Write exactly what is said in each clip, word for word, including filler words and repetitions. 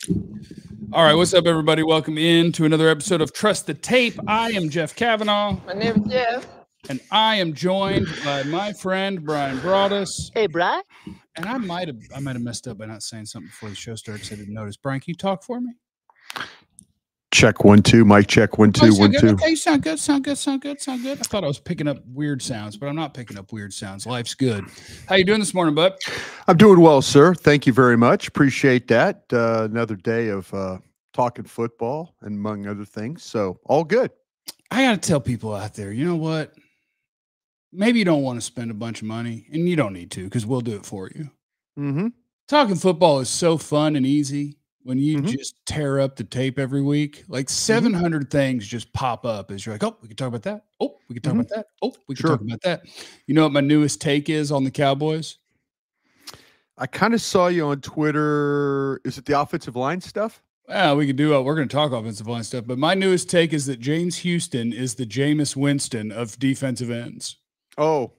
All right, what's up, everybody? Welcome in to another episode of Trust the Tape. I am Jeff Kavanaugh. My name is Jeff. And I am joined by my friend Brian Broaddus. Hey, Brian. And I might have I might have messed up by not saying something before the show started because I didn't notice. Brian, can you talk for me? Check one, two. Mic check one, two, oh, one, good. two. Okay, you sound good, sound good, sound good, sound good. I thought I was picking up weird sounds, but I'm not picking up weird sounds. Life's good. How you doing this morning, bud? I'm doing well, sir. Thank you very much. Appreciate that. Uh, another day of uh, talking football and among other things. So all good. I got to tell people out there, you know what? Maybe you don't want to spend a bunch of money, and you don't need to because we'll do it for you. Mm-hmm. Talking football is so fun and easy when you mm-hmm. just tear up the tape every week. Like seven hundred mm-hmm. things just pop up as you're like, oh, we can talk about that. Oh, we can talk mm-hmm. about that. Oh, we can sure. talk about that. You know what my newest take is on the Cowboys? I kind of saw you on Twitter. Is it the offensive line stuff? Well, we could do it. We're going to talk offensive line stuff. But my newest take is that James Houston is the Jameis Winston of defensive ends. Oh,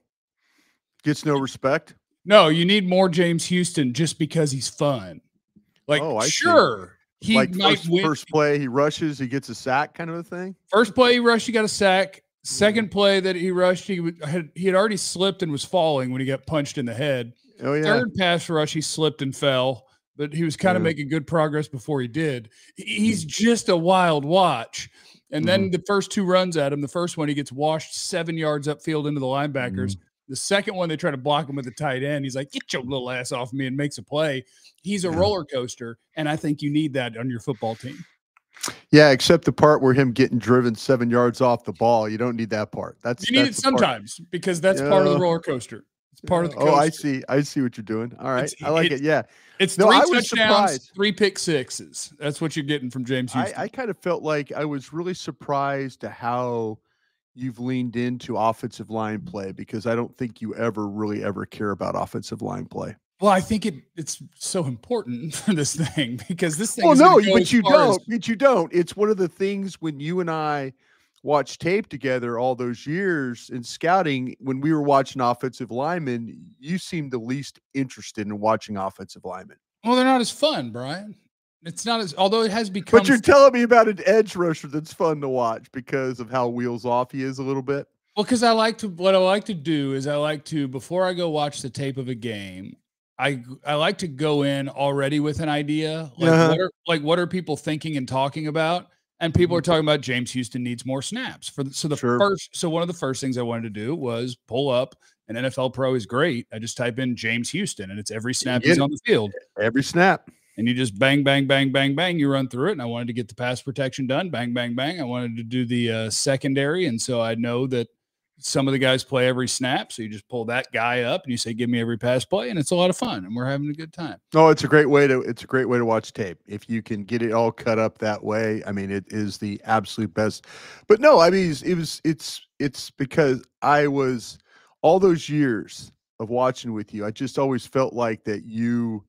gets no respect? No, you need more James Houston just because he's fun. Like, oh, I sure, see. he like might first, win. First play, he rushes, he gets a sack kind of a thing? First play he rushed, he got a sack. Second play that he rushed, he had, he had already slipped and was falling when he got punched in the head. Oh, yeah. Third pass rush, he slipped and fell, but he was kind yeah. of making good progress before he did. He's just a wild watch. And then mm-hmm. the first two runs at him, the first one, he gets washed seven yards upfield into the linebackers. Mm-hmm. The second one, they try to block him with the tight end. He's like, get your little ass off me, and makes a play. He's a yeah. roller coaster, and I think you need that on your football team. Yeah, except the part where him getting driven seven yards off the ball. You don't need that part. That's You need that's it sometimes part. because that's yeah. part of the roller coaster. It's part of the coaster. Oh, I see. I see what you're doing. All right. It's, I like it. it. Yeah. It's no, three I touchdowns, surprised. three pick sixes. That's what you're getting from James Houston. I, I kind of felt like I was really surprised to how you've leaned into offensive line play because I don't think you ever really ever care about offensive line play. Well, I think it it's so important for this thing because this thing. Well, is no, go but you don't. as- But you don't. It's one of the things when you and I watched tape together all those years in scouting. When we were watching offensive linemen, you seemed the least interested in watching offensive linemen. Well, they're not as fun, Brian. It's not as, although it has become. But you're telling me about an edge rusher that's fun to watch because of how wheels off he is a little bit. Well, because I like to, what I like to do is I like to, before I go watch the tape of a game, I I like to go in already with an idea, like uh-huh. what are like what are people thinking and talking about, and people are talking about James Houston needs more snaps for the, so the sure. first so one of the first things I wanted to do was pull up an N F L Pro is great. I just type in James Houston and it's every snap he's on the field, every snap. And you just bang, bang, bang, bang, bang. You run through it. And I wanted to get the pass protection done. Bang, bang, bang. I wanted to do the uh, secondary. And so I know that some of the guys play every snap. So you just pull that guy up and you say, give me every pass play. And it's a lot of fun. And we're having a good time. Oh, it's a great way to, it's a great way to watch tape. If you can get it all cut up that way. I mean, it is the absolute best, but no, I mean, it was, it's, it's because I was all those years of watching with you. I just always felt like that you,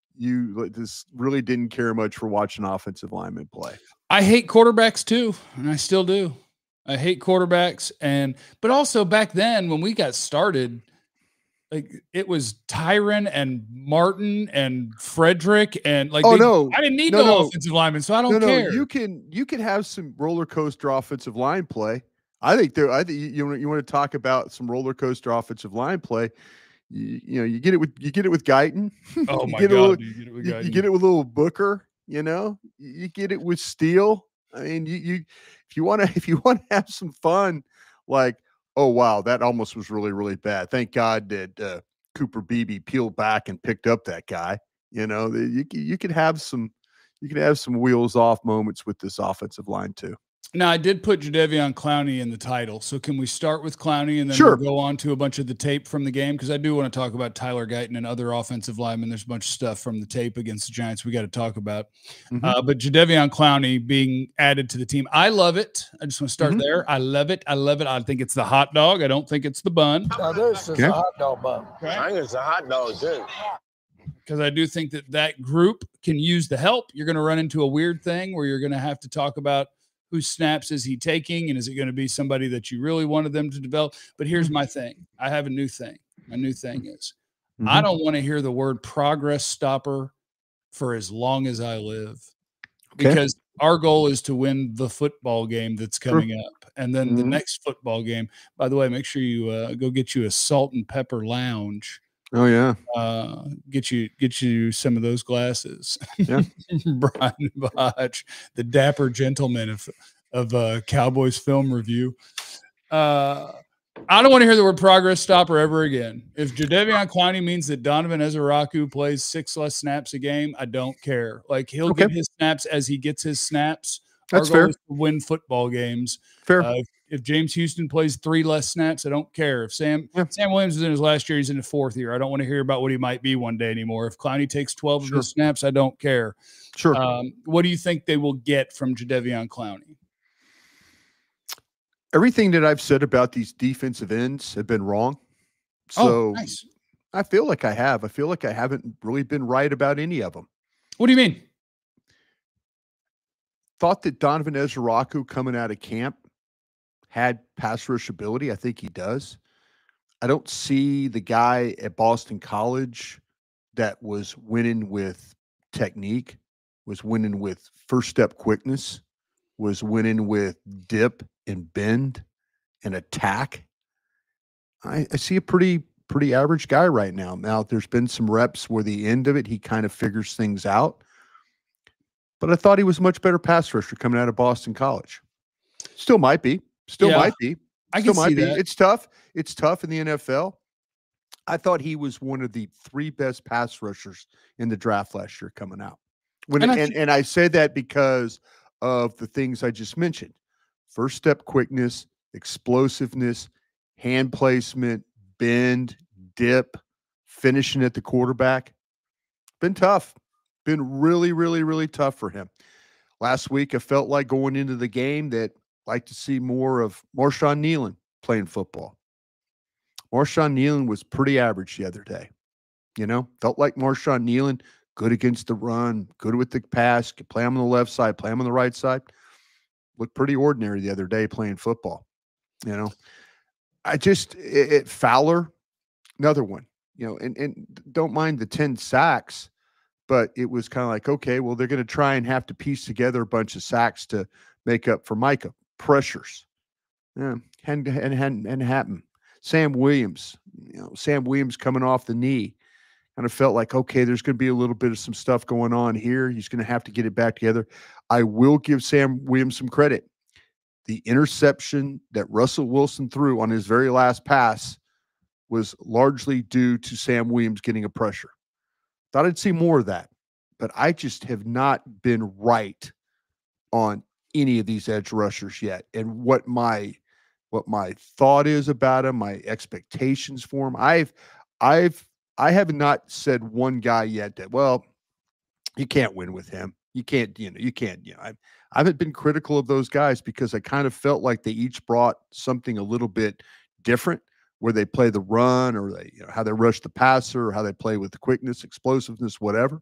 you just really didn't care much for watching offensive linemen play. I hate quarterbacks too, and I still do. I hate quarterbacks, and but also back then when we got started, like it was Tyron and Martin and Frederick and like. Oh they, no, I didn't need no, no, no offensive linemen, so I don't no, care. No, you can you can have some roller coaster offensive line play. I think there. I think you you, you want to talk about some roller coaster offensive line play. You, you know, you get it with you get it with Guyton. Oh my you god, little, you, get it with you, you get it with little Booker. You know, you get it with Steele. I mean, you you if you want to if you want to have some fun, like oh wow, that almost was really really bad. Thank God that uh, Cooper Beebe peeled back and picked up that guy. You know, you you could have some you could have some wheels off moments with this offensive line too. Now, I did put Jadeveon Clowney in the title, so can we start with Clowney and then sure. we'll go on to a bunch of the tape from the game? Because I do want to talk about Tyler Guyton and other offensive linemen. There's a bunch of stuff from the tape against the Giants we got to talk about. Mm-hmm. Uh, but Jadeveon Clowney being added to the team, I love it. I just want to start mm-hmm. there. I love it. I love it. I think it's the hot dog. I don't think it's the bun. No, this is okay. a hot dog bun. Okay. I think it's a hot dog, too. Because I do think that that group can use the help. You're going to run into a weird thing where you're going to have to talk about whose snaps is he taking, and is it going to be somebody that you really wanted them to develop? But here's my thing. I have a new thing. My new thing is mm-hmm. I don't want to hear the word progress stopper for as long as I live. Okay. Because our goal is to win the football game that's coming Sure. up. And then Mhm. the next football game, by the way, make sure you uh, go get you a Salt and Pepper Lounge. Oh, yeah. Uh, get you get you some of those glasses. Yeah. Brian Botch, the dapper gentleman of of uh, Cowboys film review. Uh, I don't want to hear the word progress stopper ever again. If Jadeveon Clowney means that Donovan Ezeraku plays six less snaps a game, I don't care. Like, he'll Okay. get his snaps as he gets his snaps. That's Our goal fair. is to win football games. Fair. Uh, if, if James Houston plays three less snaps, I don't care. If Sam Yeah. Sam Williams is in his last year, he's in the fourth year. I don't want to hear about what he might be one day anymore. If Clowney takes twelve Sure. of his snaps, I don't care. Sure. Um, what do you think they will get from Jadeveon Clowney? Everything that I've said about these defensive ends have been wrong. So Oh, nice. I feel like I have. I feel like I haven't really been right about any of them. What do you mean? Thought that Donovan Ezeraku coming out of camp had pass rush ability. I think he does. I don't see the guy at Boston College that was winning with technique, was winning with first step quickness, was winning with dip and bend and attack. I, I see a pretty, pretty average guy right now. Now, there's been some reps where the end of it, he kind of figures things out. But I thought he was a much better pass rusher coming out of Boston College. Still might be. Still Yeah, might be. I Still can might see be. that. It's tough. It's tough in the N F L. I thought he was one of the three best pass rushers in the draft last year coming out. When And and, I and, think- I say that because of the things I just mentioned. First step quickness, explosiveness, hand placement, bend, dip, finishing at the quarterback. Been tough. Been really, really, really tough for him. Last week, I felt like going into the game that I'd like to see more of Marshawn Nealon playing football. Marshawn Nealon was pretty average the other day. You know, felt like Marshawn Nealon, good against the run, good with the pass, could play him on the left side, play him on the right side. Looked pretty ordinary the other day playing football. You know, I just, it, it Fowler, another one, you know, and, and don't mind the ten sacks, but it was kind of like, okay, well, they're going to try and have to piece together a bunch of sacks to make up for Micah. Pressures. Yeah, hadn't, hadn't, hadn't, hadn't happened. Sam Williams, you know, Sam Williams coming off the knee. Kind of felt like, okay, there's going to be a little bit of some stuff going on here. He's going to have to get it back together. I will give Sam Williams some credit. The interception that Russell Wilson threw on his very last pass was largely due to Sam Williams getting a pressure. Thought I'd see more of that, but I just have not been right on any of these edge rushers yet. And what my what my thought is about him, my expectations for him. I've I've I have not said one guy yet that, well, you can't win with him. You can't, you know, you can't, you know, I, I haven't been critical of those guys because I kind of felt like they each brought something a little bit different where they play the run or they, you know, how they rush the passer or how they play with the quickness, explosiveness, whatever.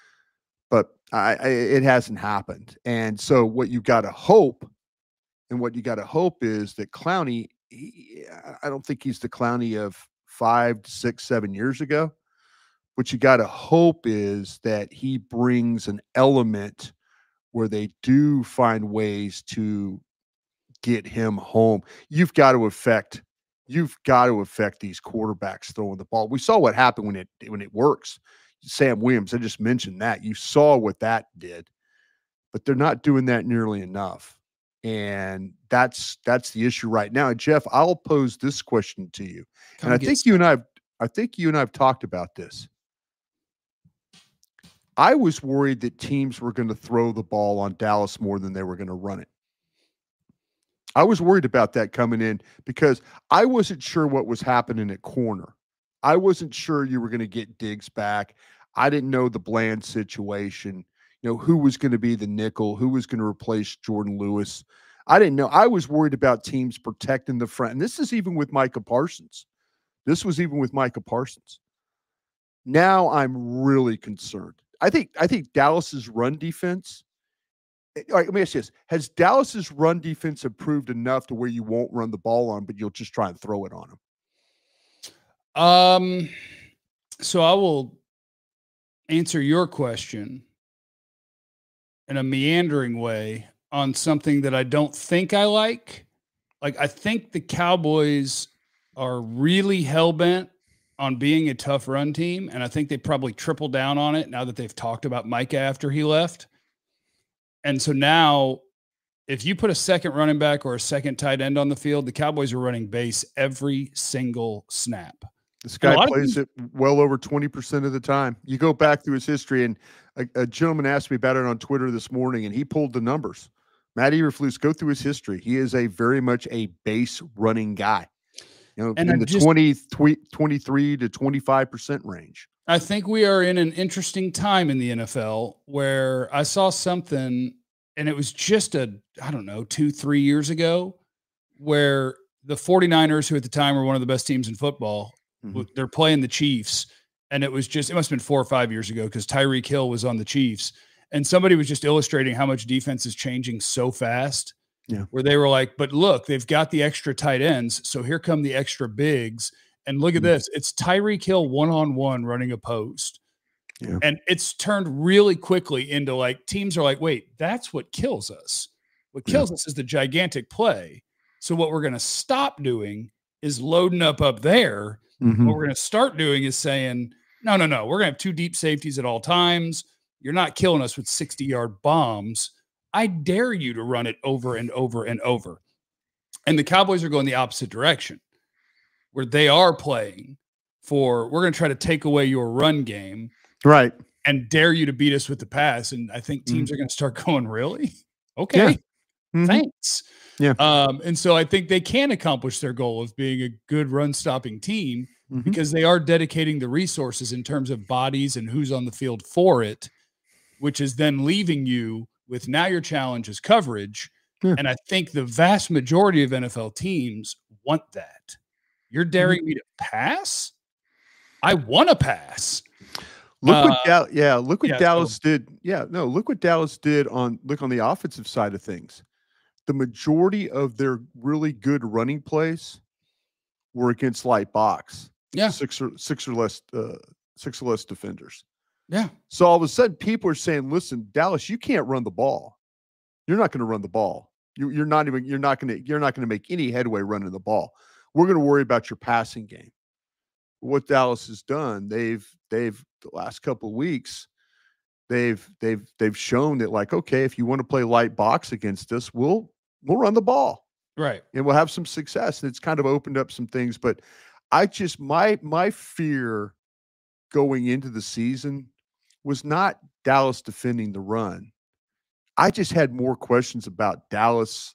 But I, I it hasn't happened. And so what you got to hope and what you got to hope is that Clowney, he, I don't think he's the Clowney of five to six, seven years ago. What you got to hope is that he brings an element where they do find ways to get him home. You've got to affect, you've got to affect these quarterbacks throwing the ball. We saw what happened when it when it works. Sam Williams, I just mentioned that. You saw what that did, but they're not doing that nearly enough. And that's that's the issue right now. And Jeff, I'll pose this question to you. Come and I get think you and I've I think you and I've talked about this. I was worried that teams were going to throw the ball on Dallas more than they were going to run it. I was worried about that coming in because I wasn't sure what was happening at corner. I wasn't sure you were going to get Diggs back. I didn't know the Bland situation, you know, who was going to be the nickel, who was going to replace Jordan Lewis. I didn't know. I was worried about teams protecting the front. And this is even with Micah Parsons. This was even with Micah Parsons. Now I'm really concerned. I think I think Dallas's run defense. All right, let me ask you this. Has Dallas's run defense improved enough to where you won't run the ball on, but you'll just try and throw it on them? Um, so I will answer your question in a meandering way on something that I don't think I like. Like, I think the Cowboys are really hell-bent on being a tough run team, and I think they probably triple down on it now that they've talked about Micah after he left. And so now, if you put a second running back or a second tight end on the field, the Cowboys are running base every single snap. This guy plays it well over twenty percent of the time. You go back through his history, and a, a gentleman asked me about it on Twitter this morning, and he pulled the numbers. Matt Eberflus, go through his history. He is a very much a base running guy. You know, and in I the just, twenty, twenty-three to twenty-five percent range. I think we are in an interesting time in the N F L where I saw something, and it was just a, I don't know, two, three years ago, where the 49ers, who at the time were one of the best teams in football, mm-hmm. they're playing the Chiefs. And it was just, it must have been four or five years ago because Tyreek Hill was on the Chiefs. And somebody was just illustrating how much defense is changing so fast. Yeah. Where they were like, but look, they've got the extra tight ends. So here come the extra bigs. And look at mm-hmm. this. It's Tyreek Hill one-on-one running a post. Yeah. And it's turned really quickly into like, teams are like, wait, that's what kills us. What kills yeah. us is the gigantic play. So what we're going to stop doing is loading up up there. Mm-hmm. What we're going to start doing is saying, no, no, no, we're going to have two deep safeties at all times. You're not killing us with sixty-yard bombs. I dare you to run it over and over and over. And the Cowboys are going the opposite direction, where they are playing for, we're going to try to take away your run game. Right. And dare you to beat us with the pass. And I think teams mm-hmm. are going to start going, really? Okay. Yeah. Mm-hmm. Thanks. Yeah. Um, and so I think they can accomplish their goal of being a good run stopping team mm-hmm. because they are dedicating the resources in terms of bodies and who's on the field for it, which is then leaving you with now your challenge is coverage. Yeah. And I think the vast majority of N F L teams want that. You're daring mm-hmm. me to pass? I want to pass. Look what uh, Dallas, yeah, look what yeah, Dallas so, did. Yeah, no, look what Dallas did on look on the offensive side of things. The majority of their really good running plays were against light box. Yeah. Six or six or less uh, six or less defenders. Yeah. So all of a sudden, people are saying, "Listen, Dallas, you can't run the ball. You're not going to run the ball. You, you're not even. You're not going to. You're not going to make any headway running the ball. We're going to worry about your passing game." What Dallas has done, they've they've the last couple of weeks, they've they've they've shown that like, okay, if you want to play light box against us, we'll we'll run the ball, right, and we'll have some success. And it's kind of opened up some things. But I just my my fear going into the season was not Dallas defending the run. I just had more questions about Dallas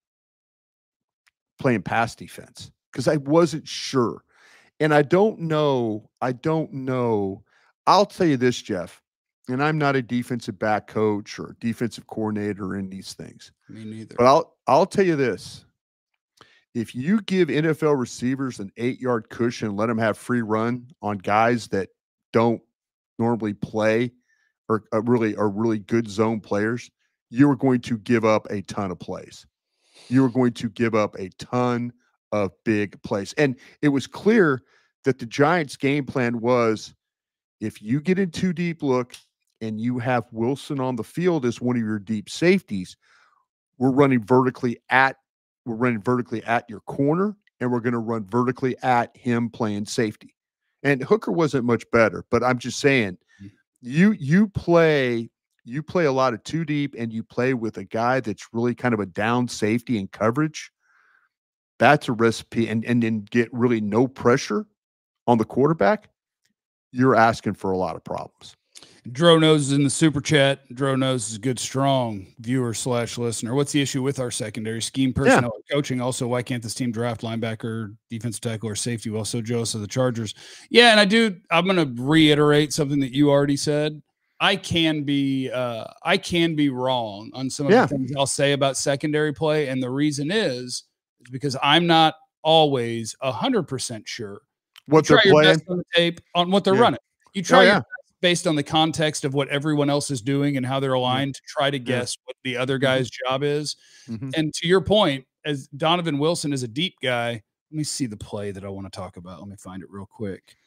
playing pass defense because I wasn't sure. And I don't know, I don't know. I'll tell you this, Jeff, and I'm not a defensive back coach or defensive coordinator in these things. Me neither. But I'll I'll tell you this. If you give N F L receivers an eight-yard cushion and let them have free run on guys that don't normally play or are really are really good zone players, you are going to give up a ton of plays. You are going to give up a ton of big plays. And it was clear that the Giants' game plan was if you get in too deep look and you have Wilson on the field as one of your deep safeties, we're running vertically at we're running vertically at your corner, and we're going to run vertically at him playing safety. And Hooker wasn't much better, but I'm just saying you you play you play a lot of too deep and you play with a guy that's really kind of a down safety and coverage. That's a recipe, and and then get really no pressure on the quarterback. You're asking for a lot of problems. Dro knows is in the super chat. Dro knows is a good, strong viewer slash listener. What's the issue with our secondary scheme personnel yeah. coaching? Also, why can't this team draft linebacker, defensive tackle, or safety? Well, so jealous of the Chargers. Yeah, and I do. I'm going to reiterate something that you already said. I can be, uh, I can be wrong on some of yeah. the things I'll say about secondary play, and the reason is, is because I'm not always a hundred percent sure what you they're try your playing best on the tape on what they're yeah. running. You try oh, your yeah. best based on the context of what everyone else is doing and how they're aligned to try to guess yeah. what the other guy's mm-hmm. job is. Mm-hmm. And to your point, as Donovan Wilson is a deep guy, let me see the play that I want to talk about. Let me find it real quick.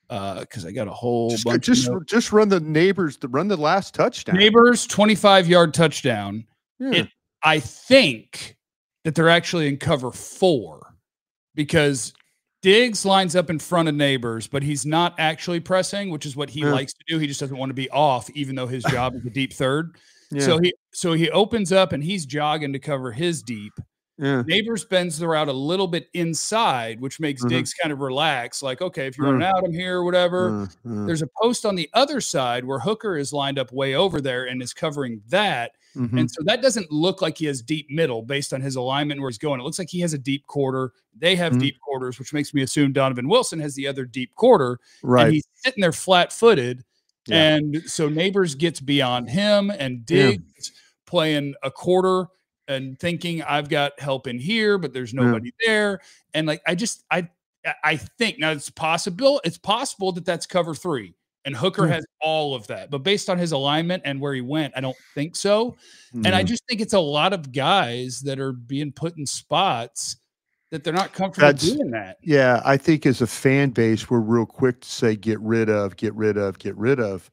uh, because I got a whole Just bunch. just, of just run the Neighbors to run the last touchdown. Neighbors twenty-five yard touchdown. Yeah. It, I think that they're actually in cover four because Diggs lines up in front of Neighbors, but he's not actually pressing, which is what he Yeah. likes to do. He just doesn't want to be off, even though his job is a deep third. Yeah. So he so he opens up and he's jogging to cover his deep. Yeah. Neighbors bends the route a little bit inside, which makes Mhm. Diggs kind of relax. Like, okay, if you're Mm. running out, I'm here, whatever. Uh, uh, There's a post on the other side where Hooker is lined up way over there and is covering that. mhm. And so that doesn't look like he has deep middle based on his alignment where he's going. It looks like he has a deep quarter. They have Mhm. deep quarters, which makes me assume Donovan Wilson has the other deep quarter. Right. And he's sitting there flat footed. Yeah. And so Neighbors gets beyond him and Yeah. Diggs playing a quarter and thinking I've got help in here, but there's nobody there. And like, I just, I, I think now it's possible, it's possible that that's cover three and Hooker Yeah. has all of that, but based on his alignment and where he went, I don't think so. And I Mhm. just think it's a lot of guys that are being put in spots that they're not comfortable That's- doing that. Yeah, I think as a fan base, we're real quick to say get rid of, get rid of, get rid of.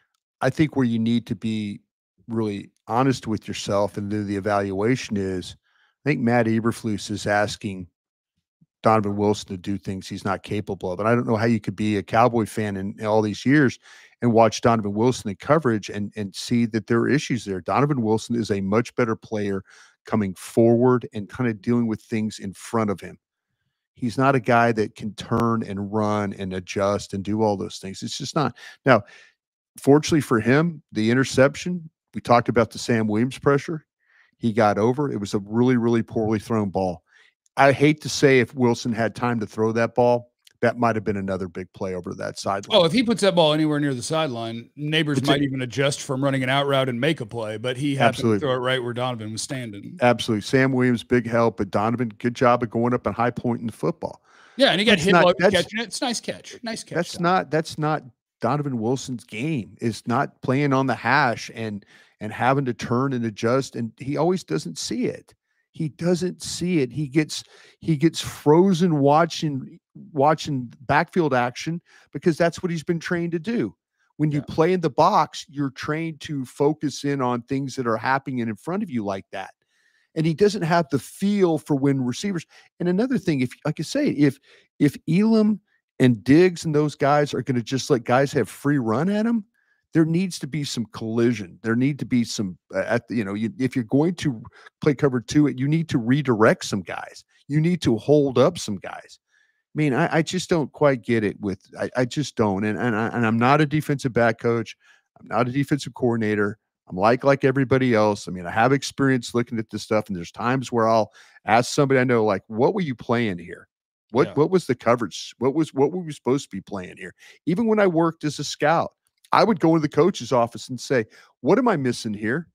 I think where you need to be really honest with yourself and do the evaluation is, I think Matt Eberflus is asking Donovan Wilson to do things he's not capable of. And I don't know how you could be a Cowboy fan in, in all these years and watch Donovan Wilson in coverage and, and see that there are issues there. Donovan Wilson is a much better player coming forward and kind of dealing with things in front of him. He's not a guy that can turn and run and adjust and do all those things. It's just not. Now, fortunately for him, the interception, we talked about the Sam Williams pressure. He got over. It was a really, really poorly thrown ball. I hate to say if Wilson had time to throw that ball, that might have been another big play over that sideline. Oh, if he puts that ball anywhere near the sideline, Neighbors It's might a- even adjust from running an out route and make a play, but he happened Absolutely. to throw it right where Donovan was standing. Absolutely. Sam Williams, big help, but Donovan, good job of going up and high point in the football. Yeah, and he got That's hit not- while he was that's- catching it. It's a nice catch. Nice catch. That's Donovan. not that's not Donovan Wilson's game. Is not playing on the hash and and having to turn and adjust. And he always doesn't see it. He doesn't see it. He gets he gets frozen watching watching backfield action because that's what he's been trained to do. When you Yeah. play in the box, you're trained to focus in on things that are happening in front of you like that. And he doesn't have the feel for when receivers. And another thing, if like I say, if if Elam and Diggs and those guys are going to just let guys have free run at him, there needs to be some collision. There need to be some uh, at the, you know, you, if you're going to play cover two, you need to redirect some guys. You need to hold up some guys. I mean, I, I just don't quite get it with, I, I just don't. And, and, I, and I'm not a defensive back coach. I'm not a defensive coordinator. I'm like, like everybody else. I mean, I have experience looking at this stuff, and there's times where I'll ask somebody I know, like, what were you playing here? What, Yeah. what was the coverage? What was, what were we supposed to be playing here? Even when I worked as a scout, I would go into the coach's office and say, what am I missing here?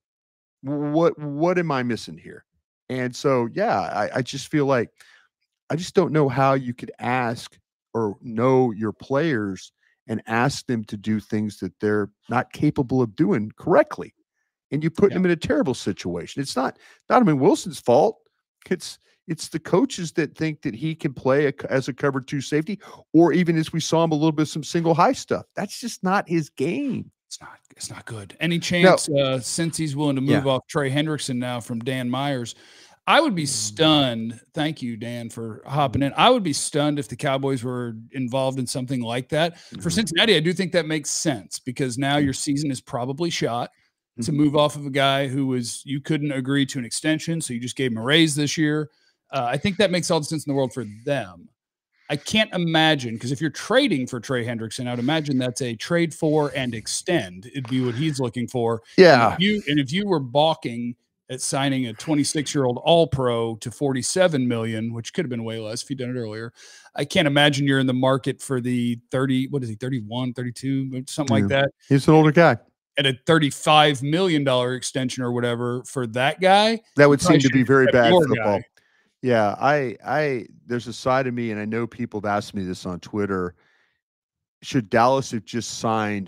What, what am I missing here? And so, yeah, I, I just feel like, I just don't know how you could ask or know your players and ask them to do things that they're not capable of doing correctly. And you put Yeah. them in a terrible situation. It's not Donovan Wilson's fault. It's it's the coaches that think that he can play a, as a cover two safety, or even as we saw him a little bit of some single high stuff. That's just not his game. It's not. It's not good. Any chance, uh, since he's willing to move Yeah. off Trey Hendrickson now from Dan Myers, I would be stunned. Thank you, Dan, for hopping in. I would be stunned if the Cowboys were involved in something like that. For Mhm. Cincinnati, I do think that makes sense because now your season is probably shot to move off of a guy who was you couldn't agree to an extension, so you just gave him a raise this year. Uh, I think that makes all the sense in the world for them. I can't imagine because if you're trading for Trey Hendrickson, I would imagine that's a trade for and extend. It'd be what he's looking for. Yeah. And if you and if you were balking at signing a twenty-six-year-old All-Pro to forty-seven million dollars, which could have been way less if you'd done it earlier, I can't imagine you're in the market for the thirty. What is he? thirty-one, thirty-two, something like Yeah. that. He's an older guy. At a thirty-five million dollars extension or whatever for that guy. That would probably seem to be should very have bad your football. guy. Yeah, I, I, there's a side of me, and I know people have asked me this on Twitter. Should Dallas have just signed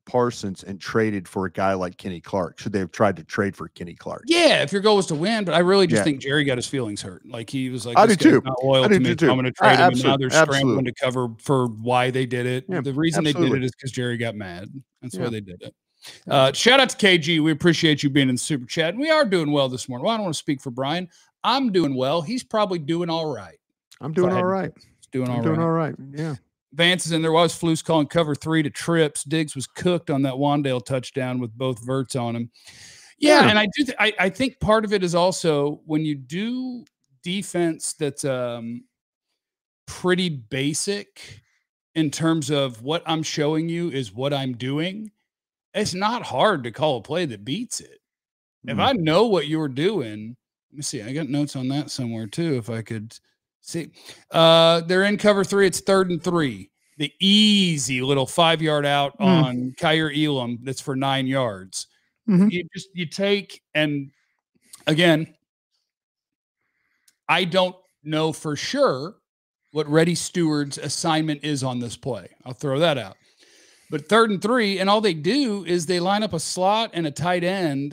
Parsons and traded for a guy like Kenny Clark? Should they have tried to trade for Kenny Clark? Yeah, if your goal was to win, but I really just Yeah. think Jerry got his feelings hurt. Like he was like, I this do guy's too. not loyal I do to me. too. So I'm going to Uh, trade him. And now absolute- they're scrambling absolutely. to cover for why they did it. Yeah, the reason they absolutely. did it is because Jerry got mad. That's Yeah. why they did it. Uh, shout out to K G. We appreciate you being in the super chat. We are doing well this morning. Well, I don't want to speak for Brian. I'm doing well. He's probably doing all right. I'm doing all right. He's doing all I'm right. doing all right. Yeah. Vance is in there. Was Flus calling cover three to trips. Diggs was cooked on that Wandale touchdown with both verts on him. Yeah, Yeah. and I do. Th- I, I think part of it is also when you do defense that's um, pretty basic in terms of what I'm showing you is what I'm doing. It's not hard to call a play that beats it. If Mm. I know what you're doing, let me see. I got notes on that somewhere too. If I could see, uh, they're in cover three. It's third and three. The easy little five yard out Mm. on Kyer Elam. That's for nine yards. Mhm. You just you take and again, I don't know for sure what Reddy Steward's assignment is on this play. I'll throw that out. But third and three, and all they do is they line up a slot and a tight end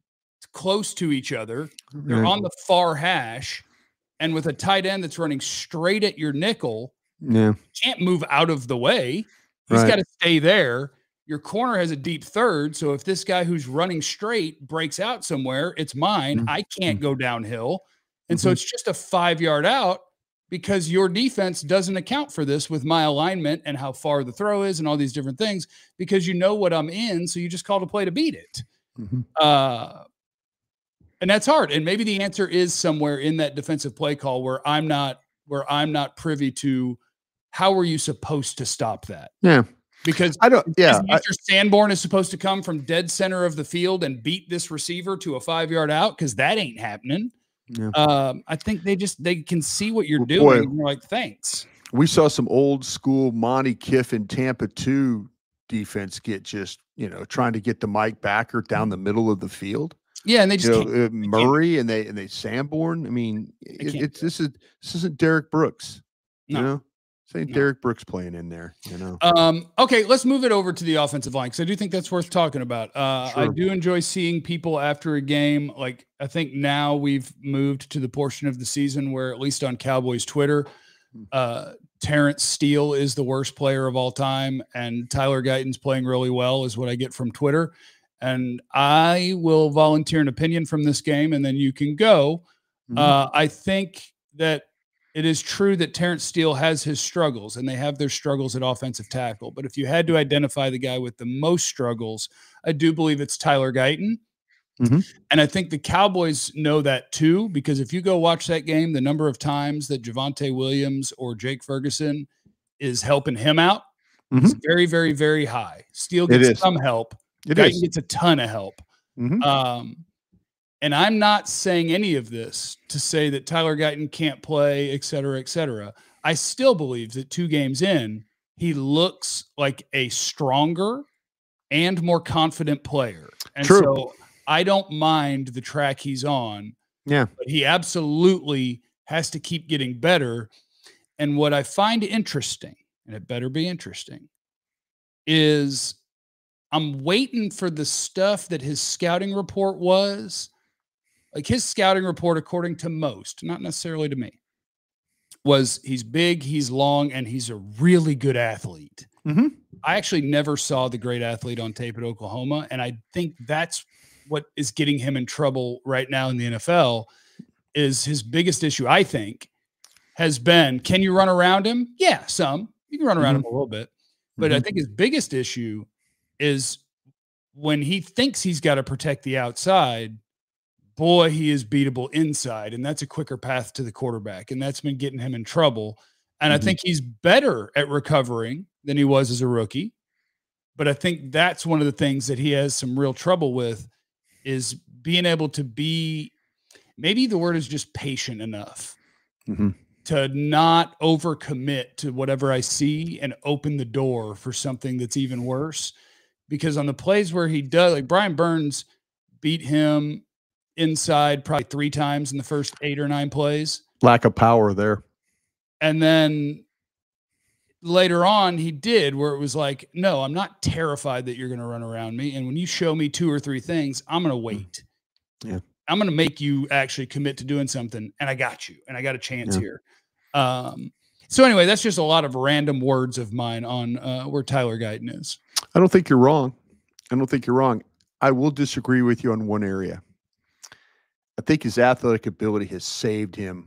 close to each other. They're Right. on the far hash, and with a tight end that's running straight at your nickel, Yeah. you can't move out of the way. He's Right. got to stay there. Your corner has a deep third, so if this guy who's running straight breaks out somewhere, it's mine. Mhm. I can't go downhill. And Mhm. so it's just a five yard out because your defense doesn't account for this with my alignment and how far the throw is and all these different things because you know what I'm in. So you just called a play to beat it. Mhm. Uh, and that's hard. And maybe the answer is somewhere in that defensive play call where I'm not, where I'm not privy to how were you supposed to stop that? Yeah. Because I don't. Yeah. I, Mister Sanborn is supposed to come from dead center of the field and beat this receiver to a five yard out because that ain't happening. Yeah. Um, I think they just they can see what you're Well, doing. boy. And you're like, thanks. we saw some old school Monty Kiffin Tampa two defense get just, you know, trying to get the Mike Backer down the middle of the field. Yeah, and they just You know, can't. uh, Murray and they and they Sanborn. I mean, it, can't it's do this is this isn't Derek Brooks. You No. know, this ain't No. Derek Brooks playing in there. You know. Um, okay, let's move it over to the offensive line because I do think that's worth talking about. Uh, I Sure. do enjoy seeing people after a game. Like I think now we've moved to the portion of the season where, at least on Cowboys Twitter, uh, Terrence Steele is the worst player of all time, and Tyler Guyton's playing really well, is what I get from Twitter. And I will volunteer an opinion from this game, and then you can go. Mhm. Uh, I think that it is true that Terrence Steele has his struggles, and they have their struggles at offensive tackle. But if you had to identify the guy with the most struggles, I do believe it's Tyler Guyton. Mhm. And I think the Cowboys know that too, because if you go watch that game, the number of times that Javonte Williams or Jake Ferguson is helping him out is very, very, very high. Steele It gets is. some help. It Guyton is. gets a ton of help. Mhm. Um, and I'm not saying any of this to say that Tyler Guyton can't play, et cetera, et cetera. I still believe that two games in, he looks like a stronger and more confident player. And True. so I don't mind the track he's on, Yeah. but he absolutely has to keep getting better. And what I find interesting, and it better be interesting, is I'm waiting for the stuff that his scouting report was. Like his scouting report, according to most, not necessarily to me, was he's big, he's long, and he's a really good athlete. Mhm. I actually never saw the great athlete on tape at Oklahoma, and I think that's what is getting him in trouble right now in the N F L. Is his biggest issue, I think, has been, can you run around him? Yeah, some. You can run around Mhm. him a little bit. But I Mhm. think his biggest issue is when he thinks he's got to protect the outside, boy, he is beatable inside. And that's a quicker path to the quarterback. And that's been getting him in trouble. And Mhm. I think he's better at recovering than he was as a rookie. But I think that's one of the things that he has some real trouble with is being able to be, maybe the word is just patient enough Mhm. to not overcommit to whatever I see and open the door for something that's even worse. Because on the plays where he does, like Brian Burns beat him inside probably three times in the first eight or nine plays. Lack of power there. And then later on he did, where it was like, no, I'm not terrified that you're going to run around me. And when you show me two or three things, I'm going to wait. Yeah. I'm going to make you actually commit to doing something. And I got you. And I got a chance Yeah. here. Um, so anyway, that's just a lot of random words of mine on uh, where Tyler Guyton is. I don't think you're wrong. I don't think you're wrong. I will disagree with you on one area. I think his athletic ability has saved him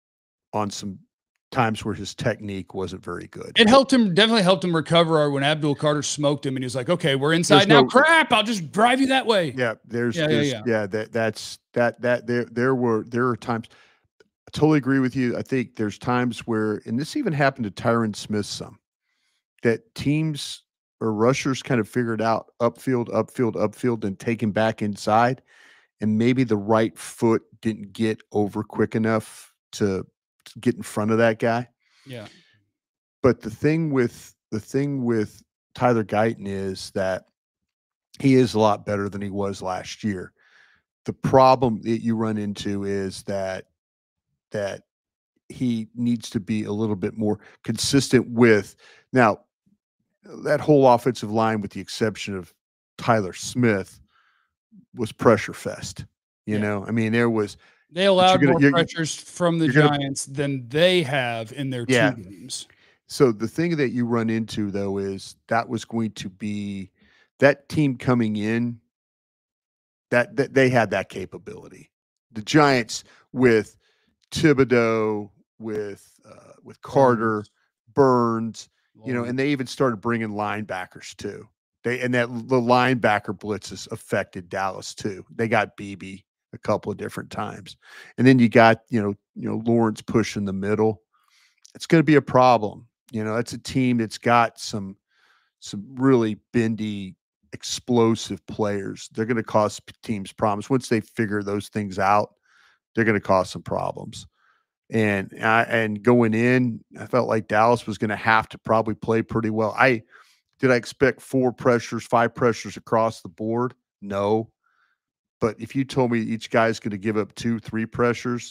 on some times where his technique wasn't very good. It helped him, definitely helped him recover when Abdul Carter smoked him and he was like, okay, we're inside There's now. no, Crap, I'll just drive you that way. Yeah, there's yeah, there's, yeah, yeah. yeah, that that's that that there there were there are times I totally agree with you. I think there's times where, and this even happened to Tyron Smith some, that teams or rushers kind of figured out upfield, upfield, upfield, and take him back inside. And maybe the right foot didn't get over quick enough to, to get in front of that guy. Yeah. But the thing with the thing with Tyler Guyton is that he is a lot better than he was last year. The problem that you run into is that that he needs to be a little bit more consistent with. Now, that whole offensive line, with the exception of Tyler Smith, was pressure fest. You Yeah. know, I mean, there was They allowed gonna- more you're- pressures from the you're gonna- Giants than they have in their Yeah. two games. So the thing that you run into, though, is that was going to be that team coming in, that, that they had that capability. The Giants with Thibodeau, with uh, with Carter, Burns, you know, and they even started bringing linebackers too. They and that the linebacker blitzes affected Dallas too. They got B B a couple of different times, and then you got you know you know Lawrence pushing the middle. It's going to be a problem. You know, it's a team that's got some some really bendy, explosive players. They're going to cause teams problems once they figure those things out. They're going to cause some problems. And I, and going in, I felt like Dallas was going to have to probably play pretty well. I did I expect four pressures, five pressures across the board? No. But if you told me each guy's going to give up two, three pressures,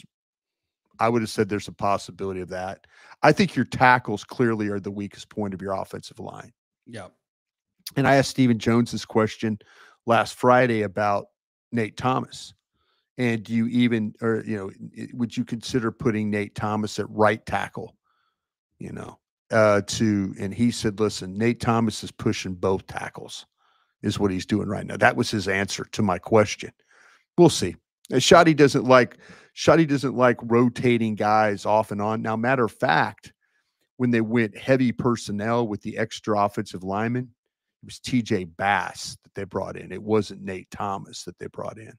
I would have said there's a possibility of that. I think your tackles clearly are the weakest point of your offensive line. Yeah. And I asked Stephen Jones this question last Friday about Nate Thomas. And do you even, or, you know, would you consider putting Nate Thomas at right tackle, you know, uh, to, and he said, listen, Nate Thomas is pushing both tackles is what he's doing right now. That was his answer to my question. We'll see. Shotty doesn't like, Shotty doesn't like rotating guys off and on. Now, matter of fact, when they went heavy personnel with the extra offensive lineman, it was T J Bass that they brought in. It wasn't Nate Thomas that they brought in.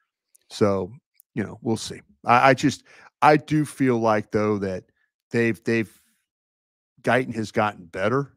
So, you know, we'll see. I, I just, I do feel like though that they've, they've, Guyton has gotten better.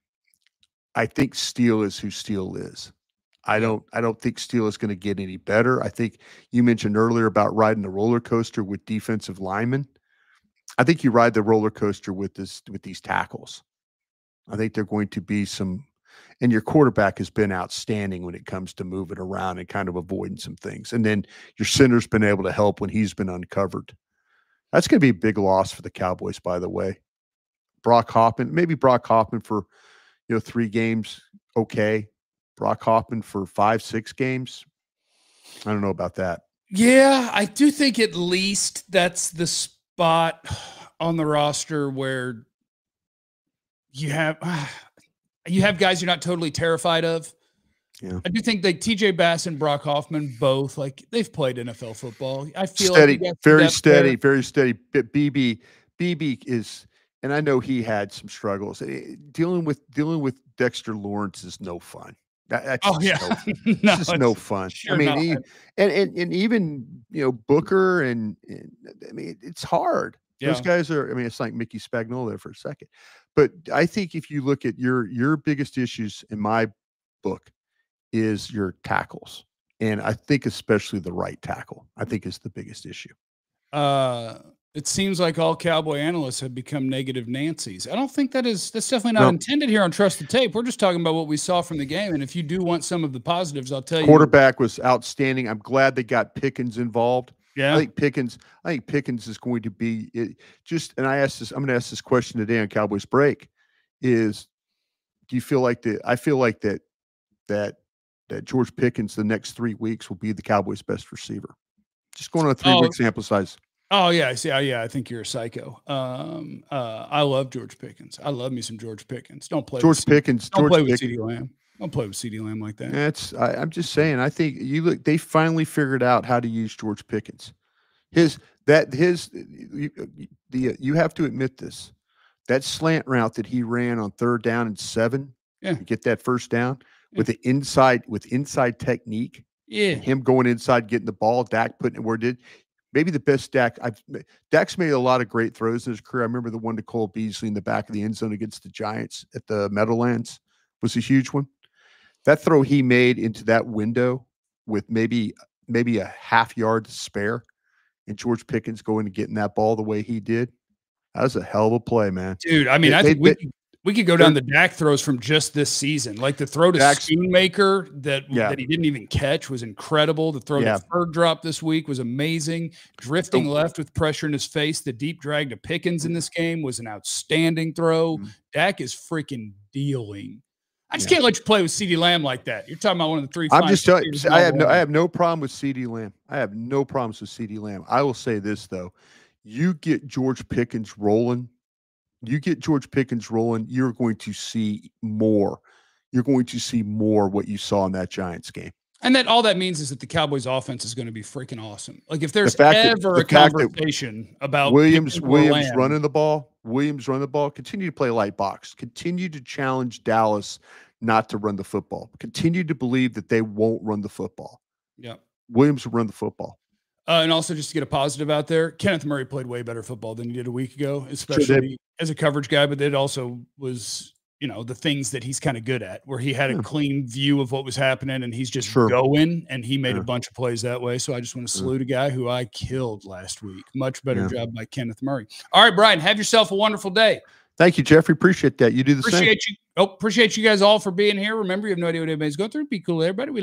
I think Steele is who Steele is. I don't, I don't think Steele is going to get any better. I think you mentioned earlier about riding the roller coaster with defensive linemen. I think you ride the roller coaster with this, with these tackles. I think they're going to be some, and your quarterback has been outstanding when it comes to moving around and kind of avoiding some things. And then your center's been able to help when he's been uncovered. That's going to be a big loss for the Cowboys, by the way. Brock Hoffman, maybe Brock Hoffman for, you know, three games. Okay. Brock Hoffman for five, six games. I don't know about that. Yeah. I do think at least that's the spot on the roster where you have, you have guys you're not totally terrified of. Yeah. I do think that T J Bass and Brock Hoffman both, like, they've played N F L football. I feel steady, like very steady, there. very steady. B B, B B is, and I know he had some struggles. Dealing with dealing with Dexter Lawrence is no fun. That, that's Oh yeah, no, no, it's just no fun. Sure I mean, not. he, and, and and even you know Booker and, and I mean it's hard. Yeah. Those guys are. I mean, it's like Mickey Spagnuolo there for a second. But I think if you look at your your biggest issues in my book is your tackles, and I think especially the right tackle. I think is the biggest issue. Uh, it seems like all Cowboy analysts have become negative Nancy's. I don't think that is, that's definitely not No. intended here on Trust the Tape. We're just talking about what we saw from the game. And if you do want some of the positives, I'll tell you. Quarterback was outstanding. I'm glad they got Pickens involved. Yeah. I think Pickens, I think Pickens is going to be it, just, and I asked this, I'm going to ask this question today on Cowboys Break. is, do you feel like that? I feel like that that that George Pickens the next three weeks will be the Cowboys' best receiver. Just going on a three Oh. week sample size. Oh yeah, I see. Oh, yeah, I think you're a psycho. Um, uh, I love George Pickens. I love me some George Pickens. Don't play George with Pickens. Don't George play with Pickens. CeeDee Lamb. Don't play with CeeDee Lamb like that. That's I, I'm just saying. I think you look. They finally figured out how to use George Pickens. His that his you, the you have to admit this. That slant route that he ran on third down and seven, Yeah. to get that first down Yeah. with the inside with inside technique. Yeah. Him going inside, getting the ball, Dak putting it where it did. Maybe the best Dak. I've Dak's made a lot of great throws in his career. I remember the one to Cole Beasley in the back of the end zone against the Giants at the Meadowlands was a huge one. That throw he made into that window with maybe maybe a half yard to spare, and George Pickens going and getting that ball the way he did. That was a hell of a play, man. Dude, I mean, They- I they- think we they- could, we could go down the Dak throws from just this season. Like the throw to Dak's- Schoonmaker that, Yeah. that he didn't even catch was incredible. The throw Yeah. to Ferg drop this week was amazing. Drifting So- left with pressure in his face. The deep drag to Pickens in this game was an outstanding throw. Mhm. Dak is freaking dealing. I just Yeah. can't let you play with CeeDee Lamb like that. You're talking about one of the three. I'm finest just telling you, receivers in I all have the no, I league. have no problem with CeeDee Lamb. I have no problems with CeeDee Lamb. I will say this though, you get George Pickens rolling, you get George Pickens rolling, you're going to see more. You're going to see more what you saw in that Giants game. And that all that means is that the Cowboys offense is going to be freaking awesome. Like if there's fact that- ever the a fact that conversation about Williams, Pickens or Williams Lamb, running the ball, Williams running the ball, continue to play light box, continue to challenge Dallas not to run the football, continue to believe that they won't run the football. yeah. Williams will run the football. Uh, and also, just to get a positive out there, Kenneth Murray played way better football than he did a week ago, especially as a coverage guy. But it also was, you know, the things that he's kind of good at, where he had Yeah. a clean view of what was happening, and he's just Sure. going, and he made Yeah. a bunch of plays that way. So I just want to Yeah. salute a guy who I killed last week. Much better Yeah. job by Kenneth Murray. All right, Brian, have yourself a wonderful day. Thank you, Jeffrey. Appreciate that. You do the same. Appreciate you. Oh, appreciate you guys all for being here. Remember, you have no idea what anybody's going through. Be cool, everybody. We